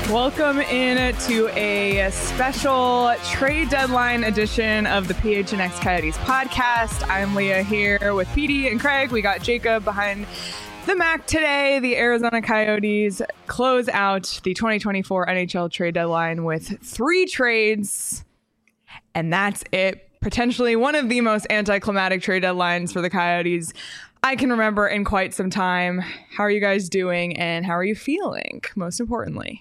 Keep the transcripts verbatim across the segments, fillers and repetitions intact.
Welcome in to a special trade deadline edition of the P H N X Coyotes podcast. I'm Leah here with Petey and Craig. We got Jacob behind the Mac today. The Arizona Coyotes close out the twenty twenty-four N H L trade deadline with three trades, and that's it. Potentially one of the most anticlimactic trade deadlines for the Coyotes I can remember in quite some time. How are you guys doing, and how are you feeling, most importantly?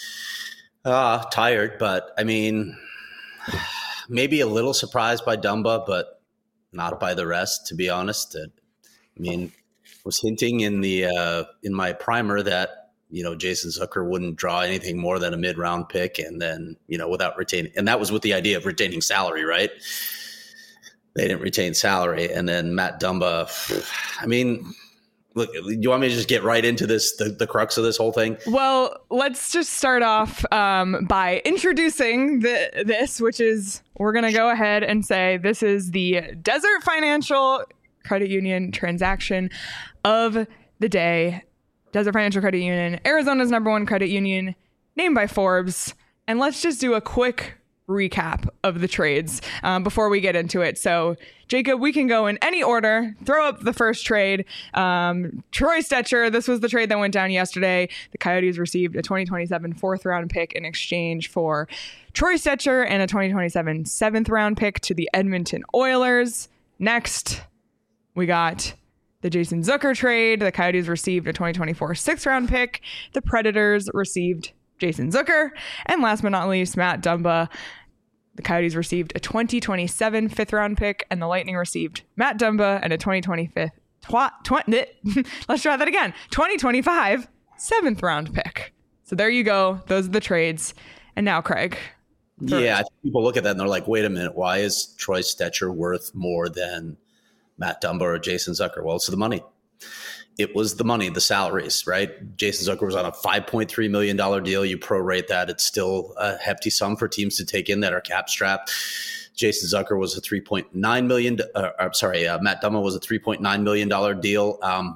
Uh, tired, but I mean, maybe a little surprised by Dumba, but not by the rest, to be honest. I mean, was hinting in the uh, in my primer that, you know, Jason Zucker wouldn't draw anything more than a mid-round pick, and then, you know, without retaining, and that was with the idea of retaining salary, right? They didn't retain salary, and then Matt Dumba, I mean, look, you want me to just get right into this, the, the crux of this whole thing? Well, let's just start off um, by introducing the, this, which is, we're going to go ahead and say this is the Desert Financial Credit Union transaction of the day. Desert Financial Credit Union, Arizona's number one credit union, named by Forbes. And let's just do a quick recap of the trades um, before we get into it. So, Jacob, we can go in any order. Throw up the first trade. Um, Troy Stecher, this was the trade that went down yesterday. The Coyotes received a twenty twenty-seven fourth round pick in exchange for Troy Stecher and a twenty twenty-seven seventh round pick to the Edmonton Oilers. Next, we got the Jason Zucker trade. The Coyotes received a twenty twenty-four sixth round pick. The Predators received Jason Zucker. And last but not least, Matt Dumba. The Coyotes received a twenty twenty-seven fifth round pick, and the Lightning received Matt Dumba and a twenty twenty-five, tw- tw- let's try that again, twenty twenty-five seventh round pick. So there you go. Those are the trades. And now, Craig. First. Yeah, I think people look at that and they're like, wait a minute, why is Troy Stecher worth more than Matt Dumba or Jason Zucker? Well, it's the money. It was the money, the salaries, right? Jason Zucker was on a five point three million dollars deal. You prorate that, it's still a hefty sum for teams to take in that are cap strapped. Jason Zucker was a three point nine million dollars, uh, I'm sorry, uh, Matt Dumba was a three point nine million dollars deal. Um,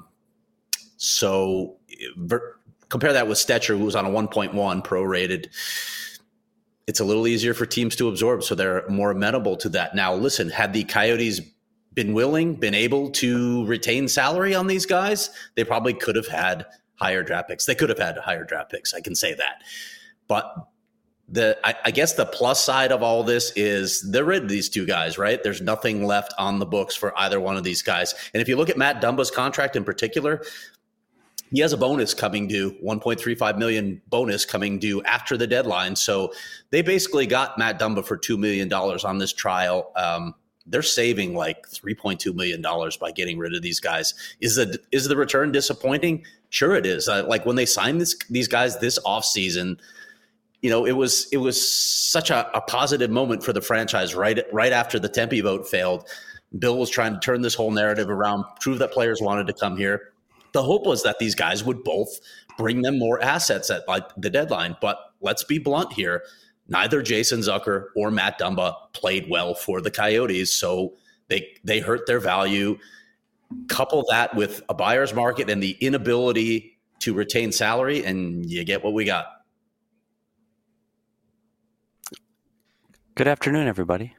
so ver- compare that with Stecher, who was on a one point one prorated. It's a little easier for teams to absorb, so they're more amenable to that. Now, listen, had the Coyotes been willing, been able to retain salary on these guys, they probably could have had higher draft picks. They could have had higher draft picks. I can say that. But the, I, I guess the plus side of all this is they're rid of these two guys, right? There's nothing left on the books for either one of these guys. And if you look at Matt Dumba's contract in particular, he has a bonus coming due, one point three five million dollars bonus coming due after the deadline. So they basically got Matt Dumba for two million dollars on this trial. Um, They're saving like three point two million dollars by getting rid of these guys. Is the is the return disappointing? Sure it is. Uh, like when they signed this, these guys this offseason, you know, it was it was such a, a positive moment for the franchise right, right after the Tempe vote failed. Bill was trying to turn this whole narrative around, prove that players wanted to come here. The hope was that these guys would both bring them more assets at like the deadline. But let's be blunt here. Neither Jason Zucker or Matt Dumba played well for the Coyotes, so they they hurt their value. Couple that with a buyer's market and the inability to retain salary, and you get what we got. Good afternoon, everybody.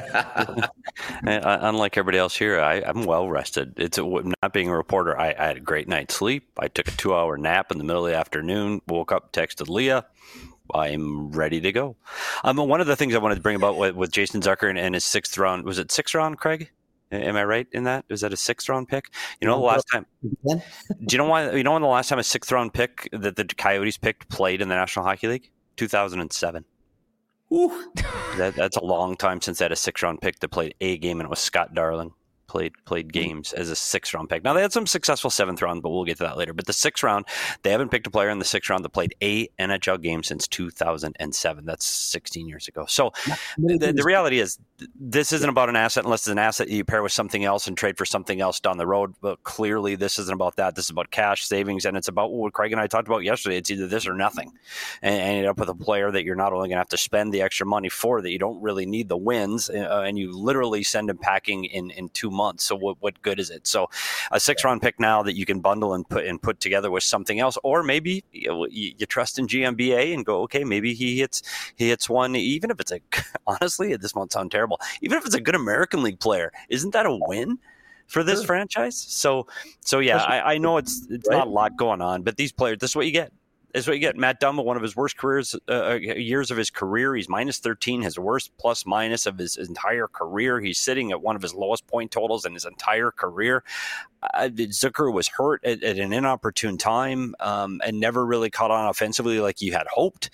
Unlike everybody else here, I, I'm well rested. It's a, not being a reporter. I, I had a great night's sleep. I took a two-hour nap in the middle of the afternoon, woke up, texted Leah. I'm ready to go. Um, one of the things I wanted to bring about with, with Jason Zucker and, and his sixth round, was it sixth round, Craig? Am I right in that? Was that a sixth round pick? You know, the last time, do you know why, you know when the last time a sixth round pick that the Coyotes picked played in the National Hockey League? two thousand seven. Ooh. that, that's a long time since they had a sixth round pick that played a game, and it was Scott Darling. Played played games as a sixth round pick. Now they had some successful seventh round, but we'll get to that later. But the sixth round, they haven't picked a player in the sixth round that played a N H L game since two thousand seven. That's sixteen years ago. So the, the reality is, this isn't about an asset unless it's an asset you pair with something else and trade for something else down the road. But clearly, this isn't about that. This is about cash savings, and it's about what Craig and I talked about yesterday. It's either this or nothing, and, and you end up with a player that you're not only going to have to spend the extra money for, that you don't really need the wins, uh, and you literally send him packing in in two months. months. So what, what good is it? So a six round pick now that you can bundle and put and put together with something else, or maybe you, know, you, you trust in G M B A and go, okay, maybe he hits he hits one, even if it's a honestly, this won't sound terrible, even if it's a good American League player, isn't that a win for this sure. franchise? So so yeah, I, I know it's it's right. not a lot going on, but these players, this is what you get. This is what you get. Matt Dumba, one of his worst careers, uh, years of his career. He's minus thirteen, his worst plus minus of his entire career. He's sitting at one of his lowest point totals in his entire career. Uh, Zucker was hurt at, at an inopportune time um, and never really caught on offensively like you had hoped.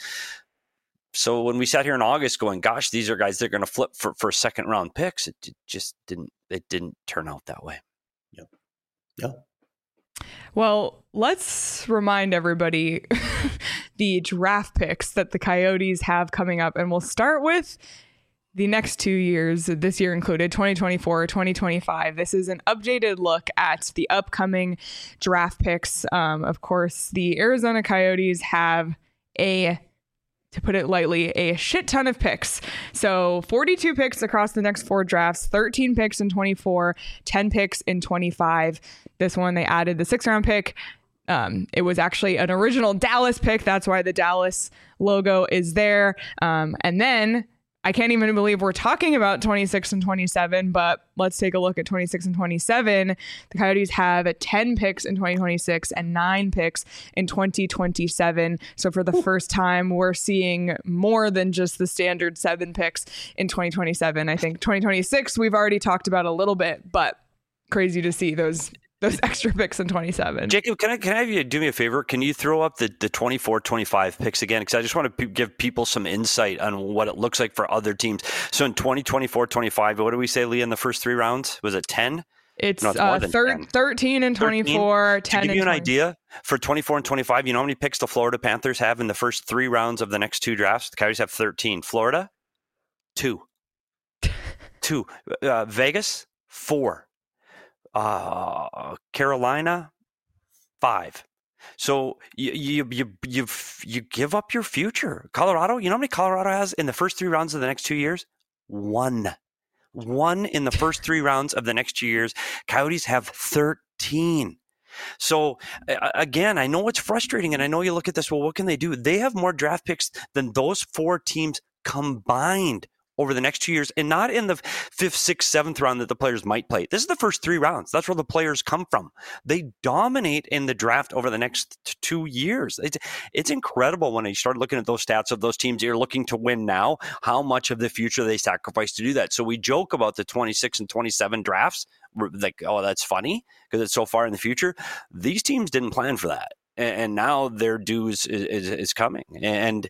So when we sat here in August going, gosh, these are guys that are going to flip for, for second round picks, it just didn't, it didn't turn out that way. Yep. Yep. Well, let's remind everybody the draft picks that the Coyotes have coming up. And we'll start with the next two years, this year included, twenty twenty-four, twenty twenty-five. This is an updated look at the upcoming draft picks. Um, of course, the Arizona Coyotes have a, to put it lightly, a shit ton of picks. So forty-two picks across the next four drafts, thirteen picks in twenty-four, ten picks in twenty-five. This one, they added the six round pick. Um, it was actually an original Dallas pick. That's why the Dallas logo is there. Um, and then I can't even believe we're talking about twenty-six and twenty-seven, but let's take a look at twenty-six and twenty-seven. The Coyotes have ten picks in twenty twenty-six and nine picks in twenty twenty-seven. So for the Ooh. first time, we're seeing more than just the standard seven picks in twenty twenty-seven. I think twenty twenty-six, we've already talked about a little bit, but crazy to see those those extra picks in twenty-seven. Jacob, can I can I have you do me a favor? Can you throw up the, the twenty-four twenty-five picks again? Because I just want to p- give people some insight on what it looks like for other teams. So in twenty twenty-four twenty-five, what do we say, Lee, in the first three rounds? Was it ten? It's, no, it's uh, thir- ten. thirteen and twenty-four, ten to give and you an twenty. idea, for twenty-four and twenty-five, you know how many picks the Florida Panthers have in the first three rounds of the next two drafts? The Coyotes have thirteen. Florida, two. two. Uh, Vegas, four. Uh, Carolina, five. So you you you you you give up your future. Colorado, you know how many Colorado has in the first three rounds of the next two years? One, one in the first three rounds of the next two years. Coyotes have thirteen. So again, I know it's frustrating, and I know you look at this. Well, what can they do? They have more draft picks than those four teams combined over the next two years, and not in the fifth, sixth, seventh round that the players might play. This is the first three rounds. That's where the players come from. They dominate in the draft over the next t- two years. It's, it's incredible when you start looking at those stats of those teams you're looking to win now, how much of the future they sacrifice to do that. So we joke about the twenty-six and twenty-seven drafts, like, oh, that's funny because it's so far in the future. These teams didn't plan for that. And now their dues is, is, is coming. And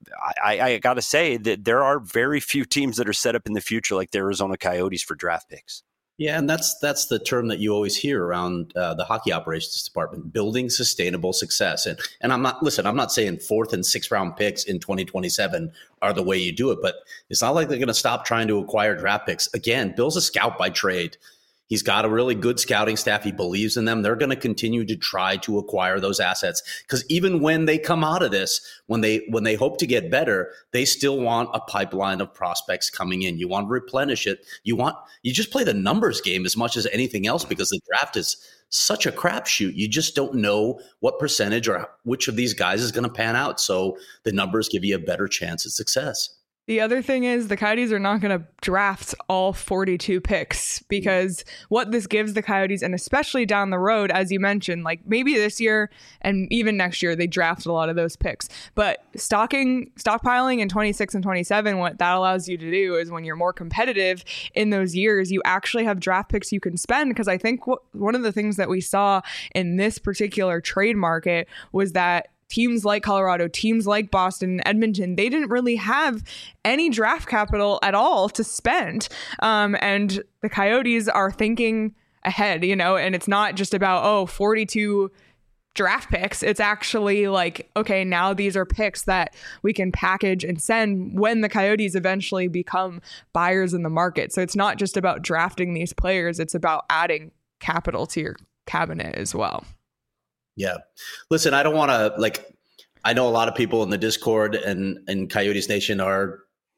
I, I got to say that there are very few teams that are set up in the future like the Arizona Coyotes for draft picks. Yeah, and that's that's the term that you always hear around uh, the hockey operations department: building sustainable success. And and I'm not listen. I'm not saying fourth and sixth round picks in twenty twenty-seven are the way you do it, but it's not like they're going to stop trying to acquire draft picks. Again, Bill's a scout by trade. He's got a really good scouting staff. He believes in them. They're going to continue to try to acquire those assets because even when they come out of this, when they when they hope to get better, they still want a pipeline of prospects coming in. You want to replenish it. You want you just play the numbers game as much as anything else because the draft is such a crapshoot. You just don't know what percentage or which of these guys is going to pan out. So the numbers give you a better chance at success. The other thing is the Coyotes are not going to draft all forty-two picks because what this gives the Coyotes, and especially down the road, as you mentioned, like maybe this year and even next year, they draft a lot of those picks. But stocking, stockpiling in twenty-six and twenty-seven, what that allows you to do is when you're more competitive in those years, you actually have draft picks you can spend. Because I think what, one of the things that we saw in this particular trade market was that teams like Colorado, teams like Boston, Edmonton, they didn't really have any draft capital at all to spend. Um, and the Coyotes are thinking ahead, you know, and it's not just about, oh, forty-two draft picks. It's actually like, okay, now these are picks that we can package and send when the Coyotes eventually become buyers in the market. So it's not just about drafting these players. It's about adding capital to your cabinet as well. Yeah. Listen, I don't want to like, I know a lot of people in the Discord and, and Coyotes Nation are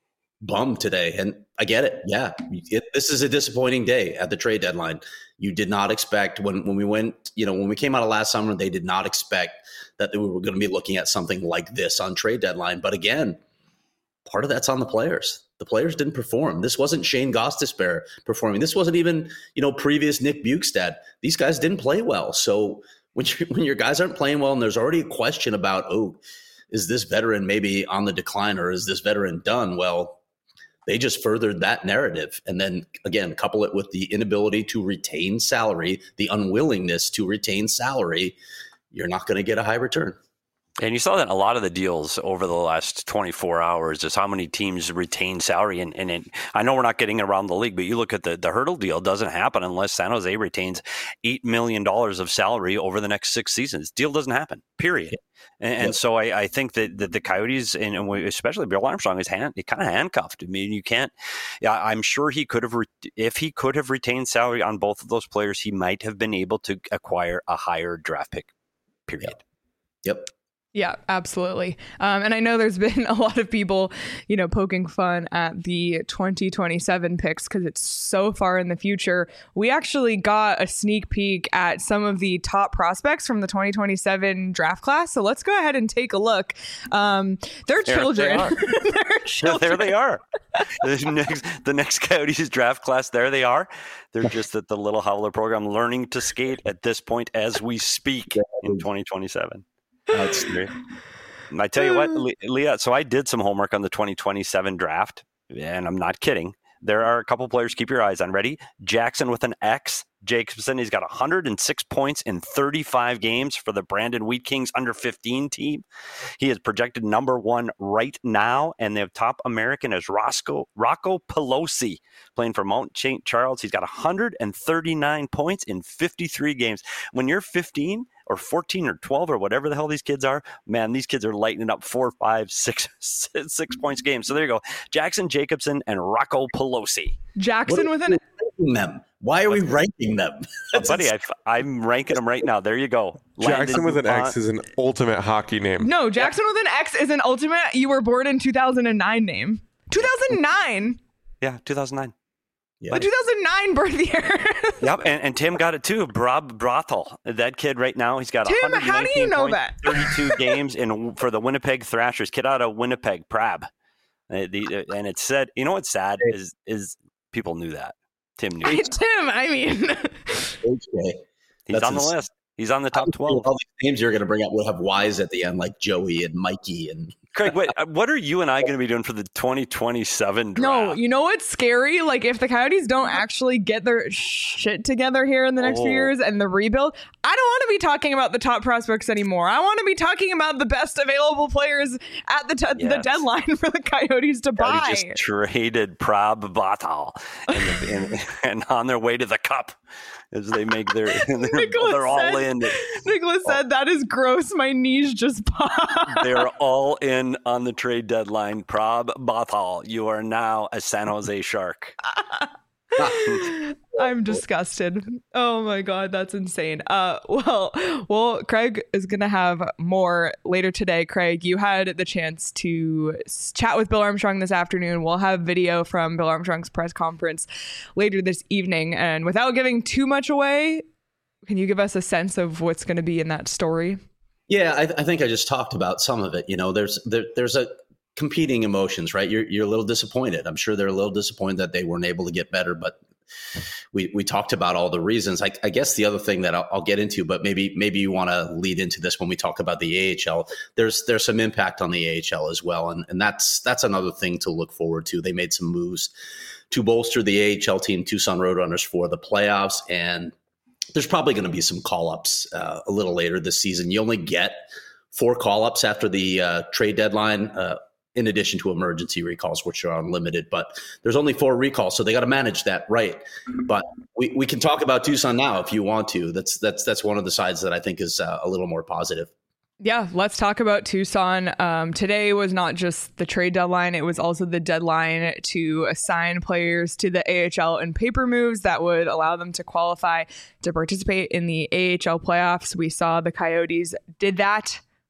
bummed today. And I get it. Yeah. It, this is a disappointing day at the trade deadline. You did not expect when, when we went, you know, when we came out of last summer, they did not expect that we were going to be looking at something like this on trade deadline. But again, part of that's on the players. The players didn't perform. This wasn't Shane Gostisbehere performing. This wasn't even, you know, previous Nick Bjugstad. These guys didn't play well. So when you, when your guys aren't playing well and there's already a question about, oh, is this veteran maybe on the decline or is this veteran done? Well, they just furthered that narrative. And then again, couple it with the inability to retain salary, the unwillingness to retain salary, you're not going to get a high return. And you saw that in a lot of the deals over the last twenty-four hours is how many teams retain salary. And, and it, I know we're not getting around the league, but you look at the, the Hurdle deal doesn't happen unless San Jose retains eight million dollars of salary over the next six seasons. Deal doesn't happen, period. Yeah. And, yeah. and so I, I think that, that the Coyotes, and, and especially Bill Armstrong, is hand, kind of handcuffed. I mean, you can't, yeah, I'm sure he could have, re, if he could have retained salary on both of those players, he might have been able to acquire a higher draft pick, period. Yep. yep. Yeah, absolutely. Um, and I know there's been a lot of people, you know, poking fun at the twenty twenty-seven picks because it's so far in the future. We actually got a sneak peek at some of the top prospects from the twenty twenty-seven draft class. So let's go ahead and take a look. Um, they're there children. They they're children. There they are. The next, the next Coyotes draft class, there they are. They're just at the Little Howler program learning to skate at this point as we speak in twenty twenty-seven. That's great. I tell you what, Leah, so I did some homework on the twenty twenty-seven draft, and I'm not kidding. There are a couple players to keep your eyes on. Ready? Jackson with an X. Jacobson, he's got one hundred six points in thirty-five games for the Brandon Wheat Kings under fifteen team. He is projected number one right now, and the top American is Roscoe, Rocco Pelosi, playing for Mount Saint Charles. He's got one hundred thirty-nine points in fifty-three games. When you're fifteen or fourteen or twelve or whatever the hell these kids are, man, these kids are lighting up four, five, six, six points a game. So there you go. Jackson Jacobson and Rocco Pelosi. Jackson with an them. Why are we ranking them? Oh, buddy, I, I'm ranking them right now. There you go. Jackson Landon with an X is an ultimate hockey name. No, Jackson with an X is an ultimate you were born in two thousand nine name. two thousand nine? Yeah, two thousand nine. Yeah. The two thousand nine birth year. Yep, and, and Tim got it too. Rob Brothel, that kid right now, he's got Tim, how do you know that? thirty-two games in for the Winnipeg Thrashers. Kid out of Winnipeg, Prab. Uh, the, uh, and it said, you know what's sad is is people knew that. Tim knew. I, Tim, I mean, okay. He's That's on the ins- list. He's on the top twelve. All these names you're going to bring up will have Y's at the end, like Joey and Mikey and. Craig, wait, what are you and I going to be doing for the twenty twenty-seven draft? No, you know what's scary? Like, if the Coyotes don't actually get their shit together here in the next oh. few years and the rebuild, I don't want to be talking about the top prospects anymore. I want to be talking about the best available players at the, t- yes. the dedeadline for the Coyotes to buy. They just traded Prab Batal and, and, and on their way to the cup as they make their, they're, they're all said, in. Nicholas oh. said, that is gross. My knees just popped. They're all in on the trade deadline. Prab Batal, you are now a San Jose Shark. I'm disgusted. Oh my God, that's insane. Uh, well, well, Craig is going to have more later today. Craig, you had the chance to chat with Bill Armstrong this afternoon. We'll have video from Bill Armstrong's press conference later this evening. And without giving too much away, can you give us a sense of what's going to be in that story? Yeah, I, th- I think I just talked about some of it. You know, there's there, there's a competing emotions, right? You're you're a little disappointed. I'm sure they're a little disappointed that they weren't able to get better, but we we talked about all the reasons. I, I guess the other thing that I'll, I'll get into, but maybe maybe you want to lead into this when we talk about the A H L. There's there's some impact on the A H L as well, and and that's that's another thing to look forward to. They made some moves to bolster the A H L team, Tucson Roadrunners, for the playoffs, and there's probably going to be some call-ups uh, a little later this season. You only get four call-ups after the uh, trade deadline, uh, in addition to emergency recalls, which are unlimited. But there's only four recalls, so they got to manage that right. But we, we can talk about Tucson now if you want to. That's that's that's one of the sides that I think is uh, a little more positive. Yeah, let's talk about Tucson. Um, today was not just the trade deadline. It was also the deadline to assign players to the A H L in paper moves that would allow them to qualify to participate in the A H L playoffs. We saw the Coyotes did that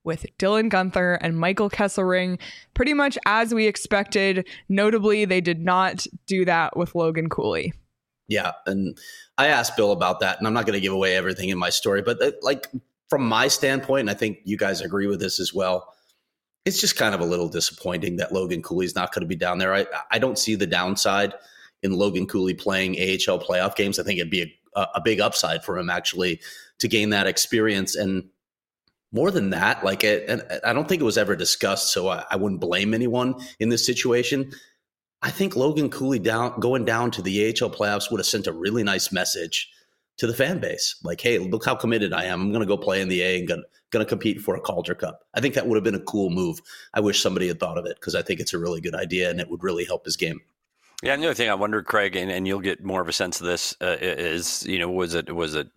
with Dylan Guenther and Michael Kesselring, pretty much as we expected. Notably, they did not do that with Logan Cooley. Yeah, and I asked Bill about that, and I'm not going to give away everything in my story, but uh, like from my standpoint, and I think you guys agree with this as well, it's just kind of a little disappointing that Logan Cooley's not going to be down there. I, I don't see the downside in Logan Cooley playing A H L playoff games. I think it'd be a, a big upside for him actually to gain that experience. And more than that, like, it, and I don't think it was ever discussed, so I, I wouldn't blame anyone in this situation. I think Logan Cooley down going down to the A H L playoffs would have sent a really nice message to the fan base. Like, hey, look how committed I am. I'm going to go play in the A and going to compete for a Calder Cup. I think that would have been a cool move. I wish somebody had thought of it because I think it's a really good idea and it would really help his game. Yeah, and the other thing I wonder, Craig, and, and you'll get more of a sense of this, uh, is, you know, was it was it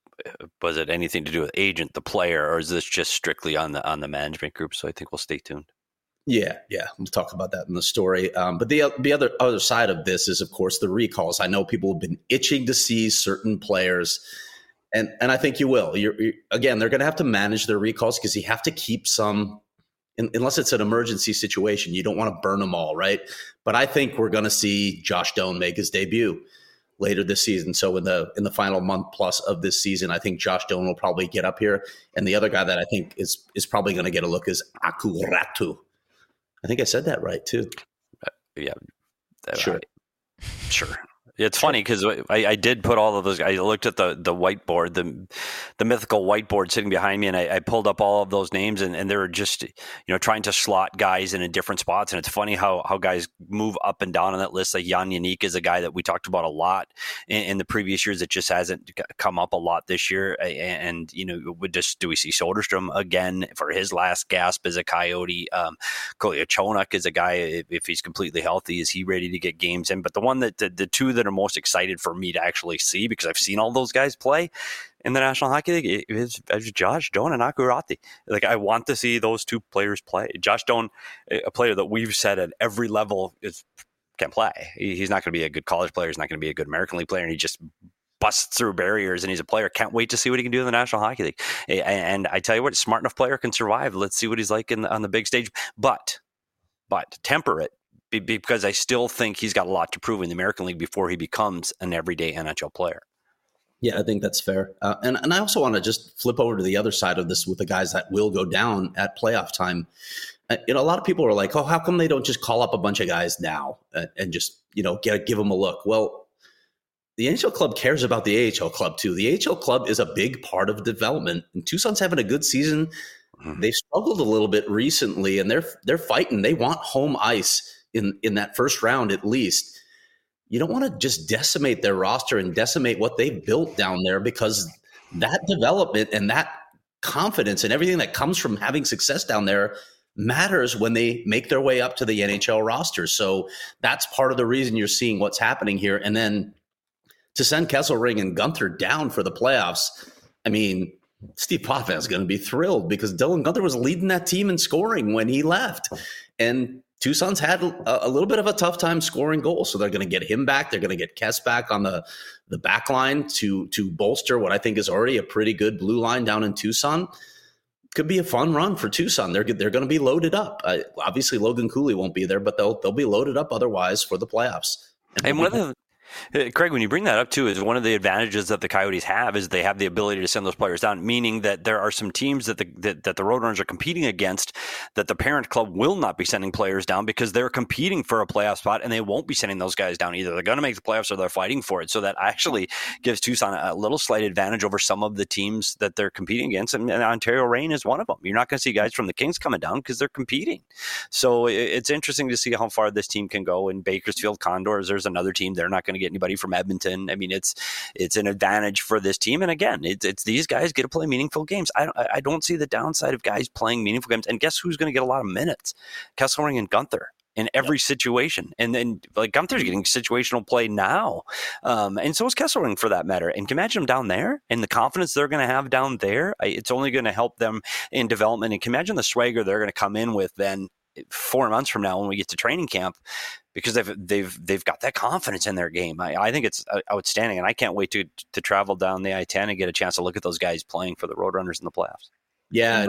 was it anything to do with agent, the player, or is this just strictly on the on the management group? So I think we'll stay tuned. Yeah, yeah, we'll talk about that in the story. Um, but the the other other side of this is, of course, the recalls. I know people have been itching to see certain players, and and I think you will. You're, you're, again, they're going to have to manage their recalls because you have to keep some, in, unless it's an emergency situation. You don't want to burn them all, right? But I think we're going to see Josh Doan make his debut later this season. So in the in the final month plus of this season, I think Josh Doan will probably get up here. And the other guy that I think is is probably going to get a look is Aku Ratu. I think I said that right too. Uh, yeah, sure, I, sure. It's funny because I, I did put all of those. I looked at the the whiteboard, the the mythical whiteboard sitting behind me, and I, I pulled up all of those names, and, and they were just, you know, trying to slot guys in different spots. And it's funny how how guys move up and down on that list. Like Jan Jeník is a guy that we talked about a lot in, in the previous years. It just hasn't come up a lot this year. And, and you know, would just do we see Soderstrom again for his last gasp as a Coyote? Um, Kolyachonok is a guy, if, if he's completely healthy, is he ready to get games in? But the one that the, the two that are most excited for me to actually see, because I've seen all those guys play in the National Hockey League, is, is Josh Doan and Aku Ratu. Like, I want to see those two players play. Josh Doan, a player that we've said at every level is can't play. He's not going to be a good college player. He's not going to be a good American League player, and he just busts through barriers, and he's a player. Can't wait to see what he can do in the National Hockey League. And I tell you what, smart enough player can survive. Let's see what he's like in the, on the big stage. But, but temper it, because I still think he's got a lot to prove in the American League before he becomes an everyday N H L player. Yeah, I think that's fair. Uh, and, and I also want to just flip over to the other side of this with the guys that will go down at playoff time. Uh, you know, a lot of people are like, oh, how come they don't just call up a bunch of guys now and, and just, you know, get give them a look? Well, the N H L club cares about the A H L club too. The A H L club is a big part of development, and Tucson's having a good season. Mm-hmm. They've struggled a little bit recently, and they're they're fighting. They want home ice in, in that first round at least. You don't want to just decimate their roster and decimate what they've built down there, because that development and that confidence and everything that comes from having success down there matters when they make their way up to the N H L roster. So that's part of the reason you're seeing what's happening here. And then to send Kesselring and Guenther down for the playoffs, I mean, Steve Potvin is going to be thrilled, because Dylan Guenther was leading that team in scoring when he left. And Tucson's had a, a little bit of a tough time scoring goals, so they're going to get him back. They're going to get Kess back on the, the back line to, to bolster what I think is already a pretty good blue line down in Tucson. Could be a fun run for Tucson. They're they're going to be loaded up. Uh, obviously, Logan Cooley won't be there, but they'll they'll be loaded up otherwise for the playoffs. And, and one of the Craig, when you bring that up too, is one of the advantages that the Coyotes have is they have the ability to send those players down, meaning that there are some teams that the that, that the Roadrunners are competing against that the parent club will not be sending players down because they're competing for a playoff spot, and they won't be sending those guys down either. They're going to make the playoffs or they're fighting for it. So that actually gives Tucson a little slight advantage over some of the teams that they're competing against, and, and Ontario Reign is one of them. You're not going to see guys from the Kings coming down because they're competing. So it, it's interesting to see how far this team can go. In Bakersfield Condors, there's another team. They're not going to get anybody from Edmonton. I mean, it's it's an advantage for this team. And again, it's, it's these guys get to play meaningful games. I don't, I don't see the downside of guys playing meaningful games. And guess who's going to get a lot of minutes? Kesselring and Guenther in every yep. situation. And then like Gunther's getting situational play now. Um, and so is Kesselring for that matter. And can you imagine them down there and the confidence they're going to have down there? I, it's only going to help them in development. And can you imagine the swagger they're going to come in with then four months from now when we get to training camp, because they've they've they've got that confidence in their game. I, I think it's outstanding, and I can't wait to to travel down the I ten and get a chance to look at those guys playing for the Roadrunners in the playoffs. Yeah, and when you look at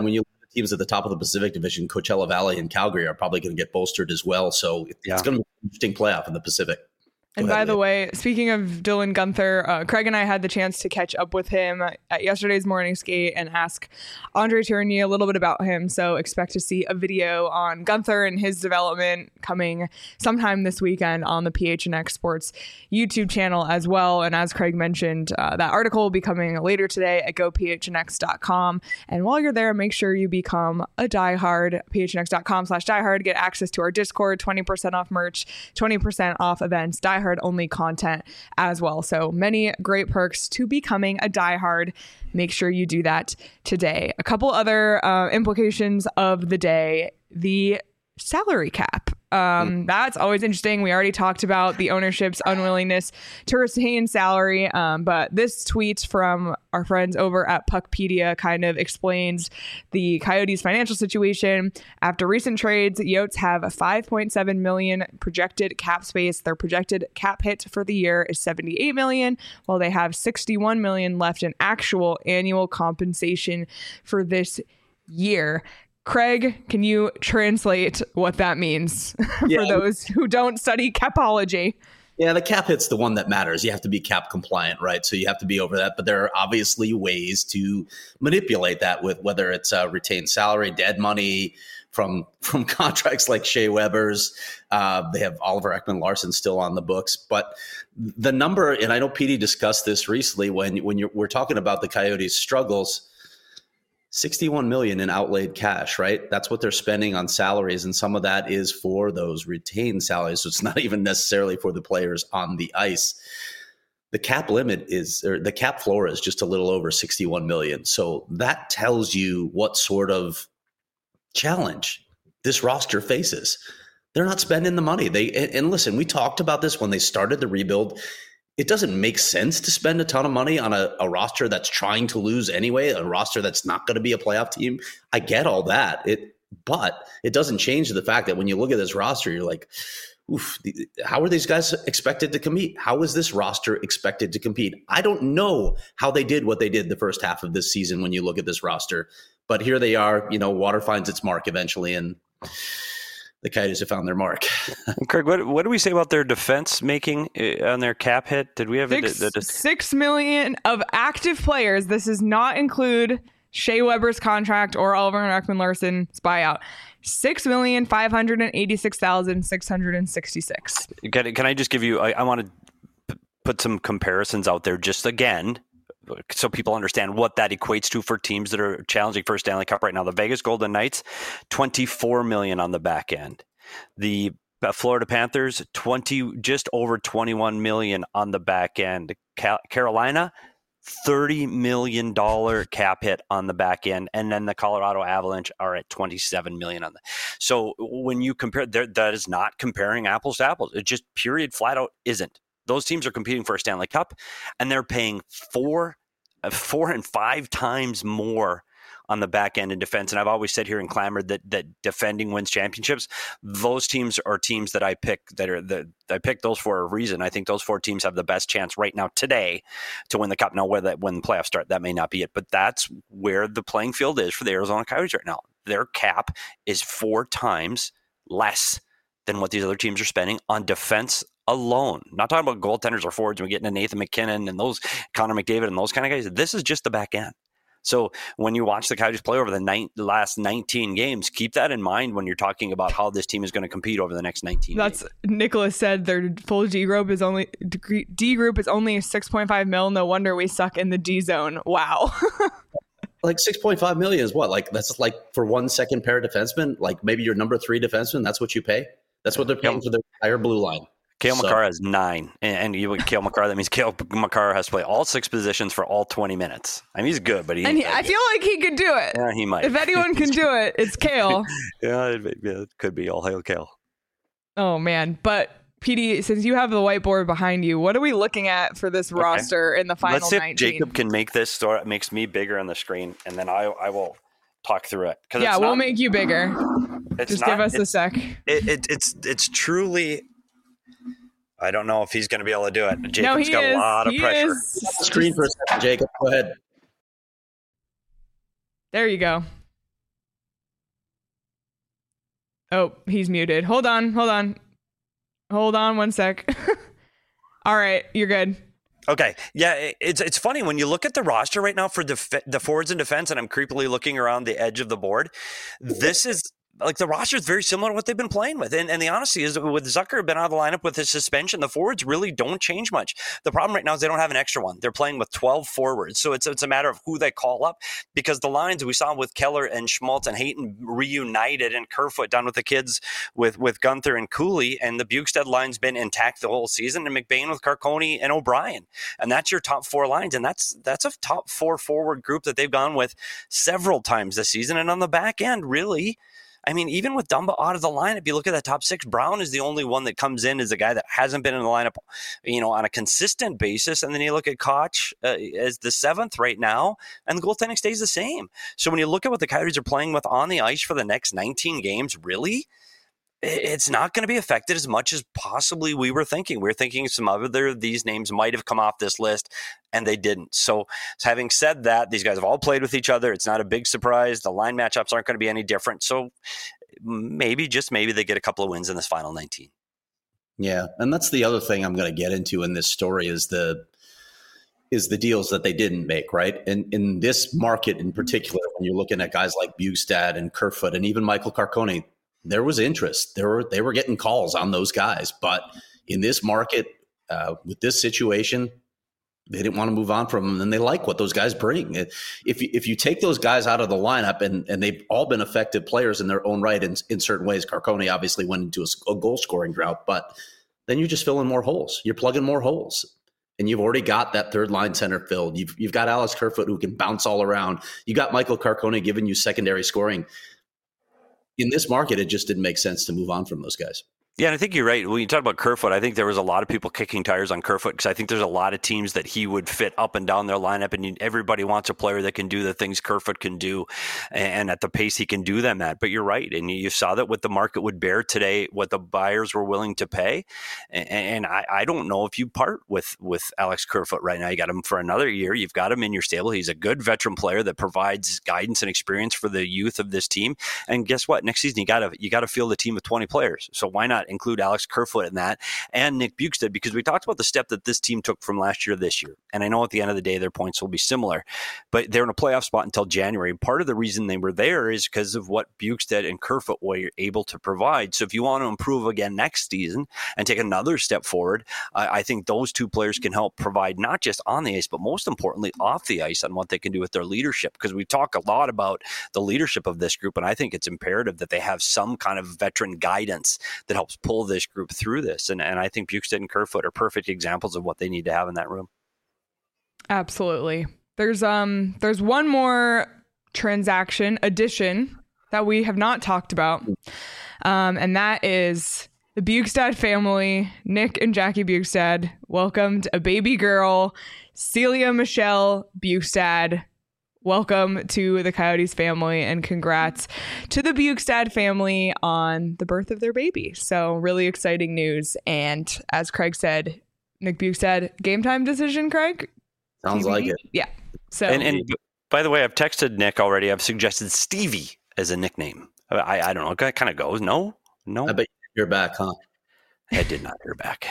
teams at the top of the Pacific Division, Coachella Valley and Calgary, are probably going to get bolstered as well. So it's yeah. going to be an interesting playoff in the Pacific. And by the way, speaking of Dylan Guenther, uh, Craig and I had the chance to catch up with him at yesterday's morning skate and ask Andre Tourigny a little bit about him. So expect to see a video on Guenther and his development coming sometime this weekend on the P H N X Sports YouTube channel as well. And as Craig mentioned, uh, that article will be coming later today at go p h n x dot com. And while you're there, make sure you become a diehard, p h n x dot com slash diehard. Get access to our Discord, twenty percent off merch, twenty percent off events, diehard only content as well. So many great perks to becoming a diehard. Make sure you do that today. A couple other uh, implications of the day: the salary cap. Um, that's always interesting. We already talked about the ownership's unwillingness to retain salary. Um, but this tweet from our friends over at Puckpedia kind of explains the Coyotes' financial situation. After recent trades, Yotes have a five point seven million projected cap space. Their projected cap hit for the year is seventy-eight million, while they have sixty-one million left in actual annual compensation for this year. Craig, can you translate what that means yeah. for those who don't study capology? Yeah, the cap hit's the one that matters. You have to be cap compliant, right? So you have to be over that. But there are obviously ways to manipulate that, with whether it's uh, retained salary, dead money from from contracts like Shea Weber's. Uh, they have Oliver Ekman-Larsson still on the books. But the number, and I know P D discussed this recently when when you're, we're talking about the Coyotes' struggles. sixty-one million in outlaid cash, right? That's what they're spending on salaries. And some of that is for those retained salaries. So it's not even necessarily for the players on the ice. The cap limit is, or the cap floor is just a little over sixty-one million. So that tells you what sort of challenge this roster faces. They're not spending the money. They, and listen, we talked about this when they started the rebuild. It doesn't make sense to spend a ton of money on a, a roster that's trying to lose anyway, a roster that's not going to be a playoff team. I get all that, it, but it doesn't change the fact that when you look at this roster, you're like, oof, how are these guys expected to compete? How is this roster expected to compete? I don't know how they did what they did the first half of this season when you look at this roster, but here they are. You know, water finds its mark eventually, and the Coyotes have found their mark. Craig, what what do we say about their defense making on their cap hit? Did we have six, a, a, a, six million of active players? This does not include Shea Weber's contract or Oliver Ekman-Larsson's buyout. Six million five hundred and eighty-six thousand six hundred and sixty-six. Can, can I just give you? I, I want to p- put some comparisons out there, just again, so people understand what that equates to for teams that are challenging for a Stanley Cup right now. The Vegas Golden Knights, twenty-four million on the back end. The Florida Panthers, twenty, just over twenty-one million on the back end. Cal- Carolina, thirty million dollars cap hit on the back end. And then the Colorado Avalanche are at twenty-seven million dollars on the. So when you compare, that is not comparing apples to apples. It just period flat out isn't. Those teams are competing for a Stanley Cup, and they're paying four, four and five times more on the back end in defense. And I've always said here in Clamor that that defending wins championships. Those teams are teams that I pick that are that I picked those for a reason. I think those four teams have the best chance right now today to win the Cup. Now, whether when the playoffs start, that may not be it, but that's where the playing field is for the Arizona Coyotes right now. Their cap is four times less than what these other teams are spending on defense alone. Not talking about goaltenders or forwards. We're getting to Nathan McKinnon and those Connor McDavid and those kind of guys. This is just the back end. So when you watch the Coyotes play over the nine, last nineteen games, keep that in mind when you're talking about how this team is going to compete over the next nineteen That's games. Nicholas said their full D group is only D group is only six point five mil. No wonder we suck in the D zone. Wow. Like six point five million is what? Like that's like for one second pair defenseman, like maybe your number three defenseman, that's what you pay? That's what they're paying yep. for their entire blue line. Cale so. Makar has nine, and, and you would Cale Makar. That means Cale Makar has to play all six positions for all twenty minutes. I mean, he's good, but he. And he, I feel like he could do it. Yeah, he might. If anyone can do it, it's Cale. yeah, it, it could be all hail Cale. Oh man, but P D, since you have the whiteboard behind you, what are we looking at for this okay. roster in the final Let's see nineteen? If Jacob can make this, so it makes me bigger on the screen, and then I I will talk through it. Yeah, it's we'll not, make you bigger. Just not, give us a sec. It, it, it's it's truly. I don't know if he's going to be able to do it. Jacob's no, he got is. a lot of he pressure. Is. Screen for a second, Jacob. Go ahead. There you go. Oh, he's muted. Hold on, hold on. Hold on one sec. All right, you're good. Okay. Yeah, it's it's funny when you look at the roster right now for def- the forwards and defense, and I'm creepily looking around the edge of the board. This is like the roster is very similar to what they've been playing with. And, and the honesty is, with Zucker been out of the lineup with his suspension, the forwards really don't change much. The problem right now is they don't have an extra one. They're playing with twelve forwards. So it's it's a matter of who they call up, because the lines we saw with Keller and Schmaltz and Hayton reunited, and Kerfoot done with the kids with, with Gunther and Cooley, and the Bukestad line's been intact the whole season, and McBain with Carcone and O'Brien. And that's your top four lines. And that's that's a top four forward group that they've gone with several times this season. And on the back end, really, I mean, even with Dumba out of the lineup, you look at that top six, Brown is the only one that comes in as a guy that hasn't been in the lineup, you know, on a consistent basis. And then you look at Koch uh, as the seventh right now, and the goaltending stays the same. So when you look at what the Coyotes are playing with on the ice for the next nineteen games, really, it's not going to be affected as much as possibly we were thinking. We were thinking some other of these names might have come off this list, and they didn't. So having said that, these guys have all played with each other. It's not a big surprise. The line matchups aren't going to be any different. So maybe, just maybe, they get a couple of wins in this final nineteen. Yeah, and that's the other thing I'm going to get into in this story is the is the deals that they didn't make, right? And in this market in particular, when you're looking at guys like Bukestad and Kerfoot and even Michael Carcone, there was interest. There were they were getting calls on those guys, but in this market, uh, with this situation, they didn't want to move on from them, and they like what those guys bring. If you, if you take those guys out of the lineup, and and they've all been effective players in their own right in, in certain ways. Carcone obviously went into a, a goal scoring drought, but then you're just filling more holes. You're plugging more holes, and you've already got that third line center filled. You've you've got Alex Kerfoot who can bounce all around. You got Michael Carcone giving you secondary scoring. In this market, it just didn't make sense to move on from those guys. Yeah, and I think you're right. When you talk about Kerfoot, I think there was a lot of people kicking tires on Kerfoot because I think there's a lot of teams that he would fit up and down their lineup, and everybody wants a player that can do the things Kerfoot can do and at the pace he can do them at. But you're right, and you saw that what the market would bear today, what the buyers were willing to pay. And I, I don't know if you part with, with Alex Kerfoot right now. You got him for another year. You've got him in your stable. He's a good veteran player that provides guidance and experience for the youth of this team. And guess what? Next season, you got to you got to field a team of twenty players. So why not include Alex Kerfoot in that and Nick Bukestad, because we talked about the step that this team took from last year to this year. And I know at the end of the day, their points will be similar, but they're in a playoff spot until January. And part of the reason they were there is because of what Bukestad and Kerfoot were able to provide. So if you want to improve again next season and take another step forward, I, I think those two players can help provide not just on the ice, but most importantly off the ice on what they can do with their leadership. Because we talk a lot about the leadership of this group, and I think it's imperative that they have some kind of veteran guidance that helps pull this group through this. And, and I think Bukestad and Kerfoot are perfect examples of what they need to have in that room. Absolutely. There's um there's one more transaction addition that we have not talked about. Um, and that is the Bukestad family. Nick and Jackie Bukestad welcomed a baby girl, Celia Michelle Bukestad. Welcome to the Coyotes family, and congrats to the Bukestad family on the birth of their baby. So really exciting news. And as Craig said, Nick Bukestad, game time decision, Craig? Sounds T V? like it. Yeah. So and, and by the way, I've texted Nick already. I've suggested Stevie as a nickname. I, I don't know. It kind of goes. No, no. I bet you're back, huh? I did not hear back.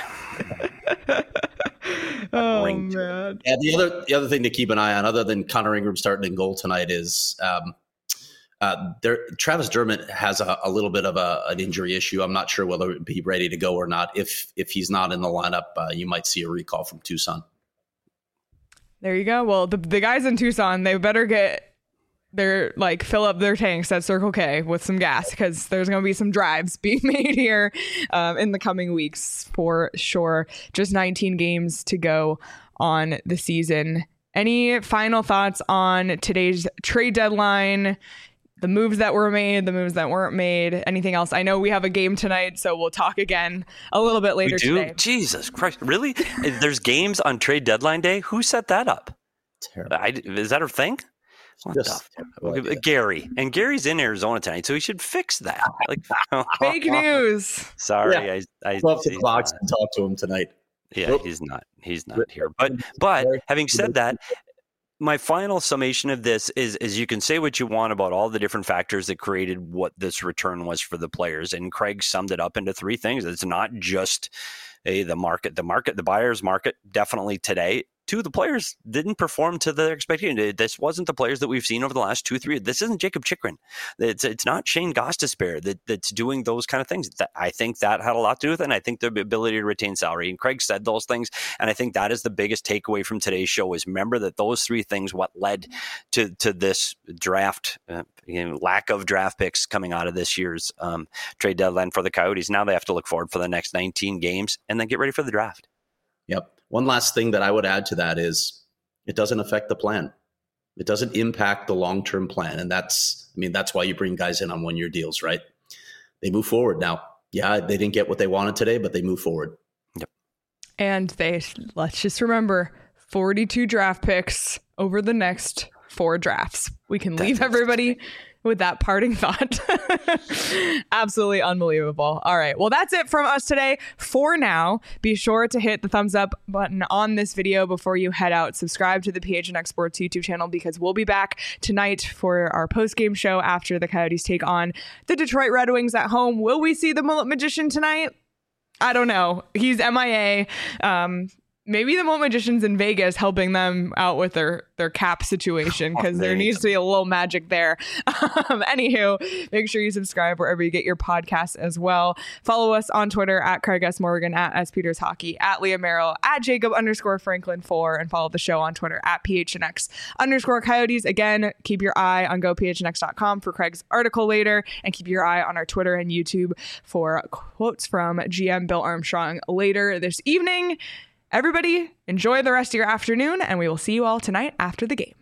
Oh man. Yeah, the other the other thing to keep an eye on, other than Connor Ingram starting in goal tonight, is um, uh, there. Travis Dermott has a, a little bit of a, an injury issue. I'm not sure whether he'd be ready to go or not. If if he's not in the lineup, uh, you might see a recall from Tucson. There you go. Well, the the guys in Tucson, they better get their like fill up their tanks at Circle K with some gas, because there's going to be some drives being made here um, in the coming weeks for sure. Just nineteen games to go on the season. Any final thoughts on today's trade deadline? The moves that were made, the moves that weren't made, anything else? I know we have a game tonight, so we'll talk again a little bit later we do? today. Jesus Christ. Really? There's games on trade deadline day? Who set that up? Terrible. I, is that a thing? What Just the? Gary. And Gary's in Arizona tonight, so he should fix that. Like Fake news. Sorry. Yeah. I, I, Go up to the he's box not. and talk to him tonight. Yeah, he's not. He's not here. But but having said that, my final summation of this is, is you can say what you want about all the different factors that created what this return was for the players. And Craig summed it up into three things. It's not just a, the market, the market, the buyer's market, definitely today. Two, the players didn't perform to their expectation. This wasn't the players that we've seen over the last two, three. This isn't Jacob Chychrun. It's it's not Shane Gostisbehere that, that's doing those kind of things. That, I think that had a lot to do with it, and I think the ability to retain salary. And Craig said those things, and I think that is the biggest takeaway from today's show is remember that those three things what led to to this draft, uh, you know, lack of draft picks coming out of this year's um, trade deadline for the Coyotes. Now they have to look forward for the next nineteen games and then get ready for the draft. Yep. One last thing that I would add to that is it doesn't affect the plan. It doesn't impact the long-term plan. And that's, I mean, that's why you bring guys in on one-year deals, right? They move forward. Now, yeah, they didn't get what they wanted today, but they move forward. Yep. And they, let's just remember, forty-two draft picks over the next four drafts. We can leave everybody with that parting thought. Absolutely unbelievable. All right. Well, that's it from us today for now. Be sure to hit the thumbs up button on this video before you head out. Subscribe to the P H N X Sports YouTube channel because we'll be back tonight for our post-game show after the Coyotes take on the Detroit Red Wings at home. Will we see the Mullet Magician tonight? I don't know. He's M I A. Um, Maybe the Mullet Magician's in Vegas helping them out with their, their cap situation because oh, there needs to be a little magic there. Um, anywho, make sure you subscribe wherever you get your podcasts as well. Follow us on Twitter at Craig S. Morgan, at S. Peters Hockey, at Leah Merrill, at Jacob underscore Franklin four, and follow the show on Twitter at P H N X underscore Coyotes. Again, keep your eye on go P H N X dot com for Craig's article later, and keep your eye on our Twitter and YouTube for quotes from G M Bill Armstrong later this evening. Everybody, enjoy the rest of your afternoon, and we will see you all tonight after the game.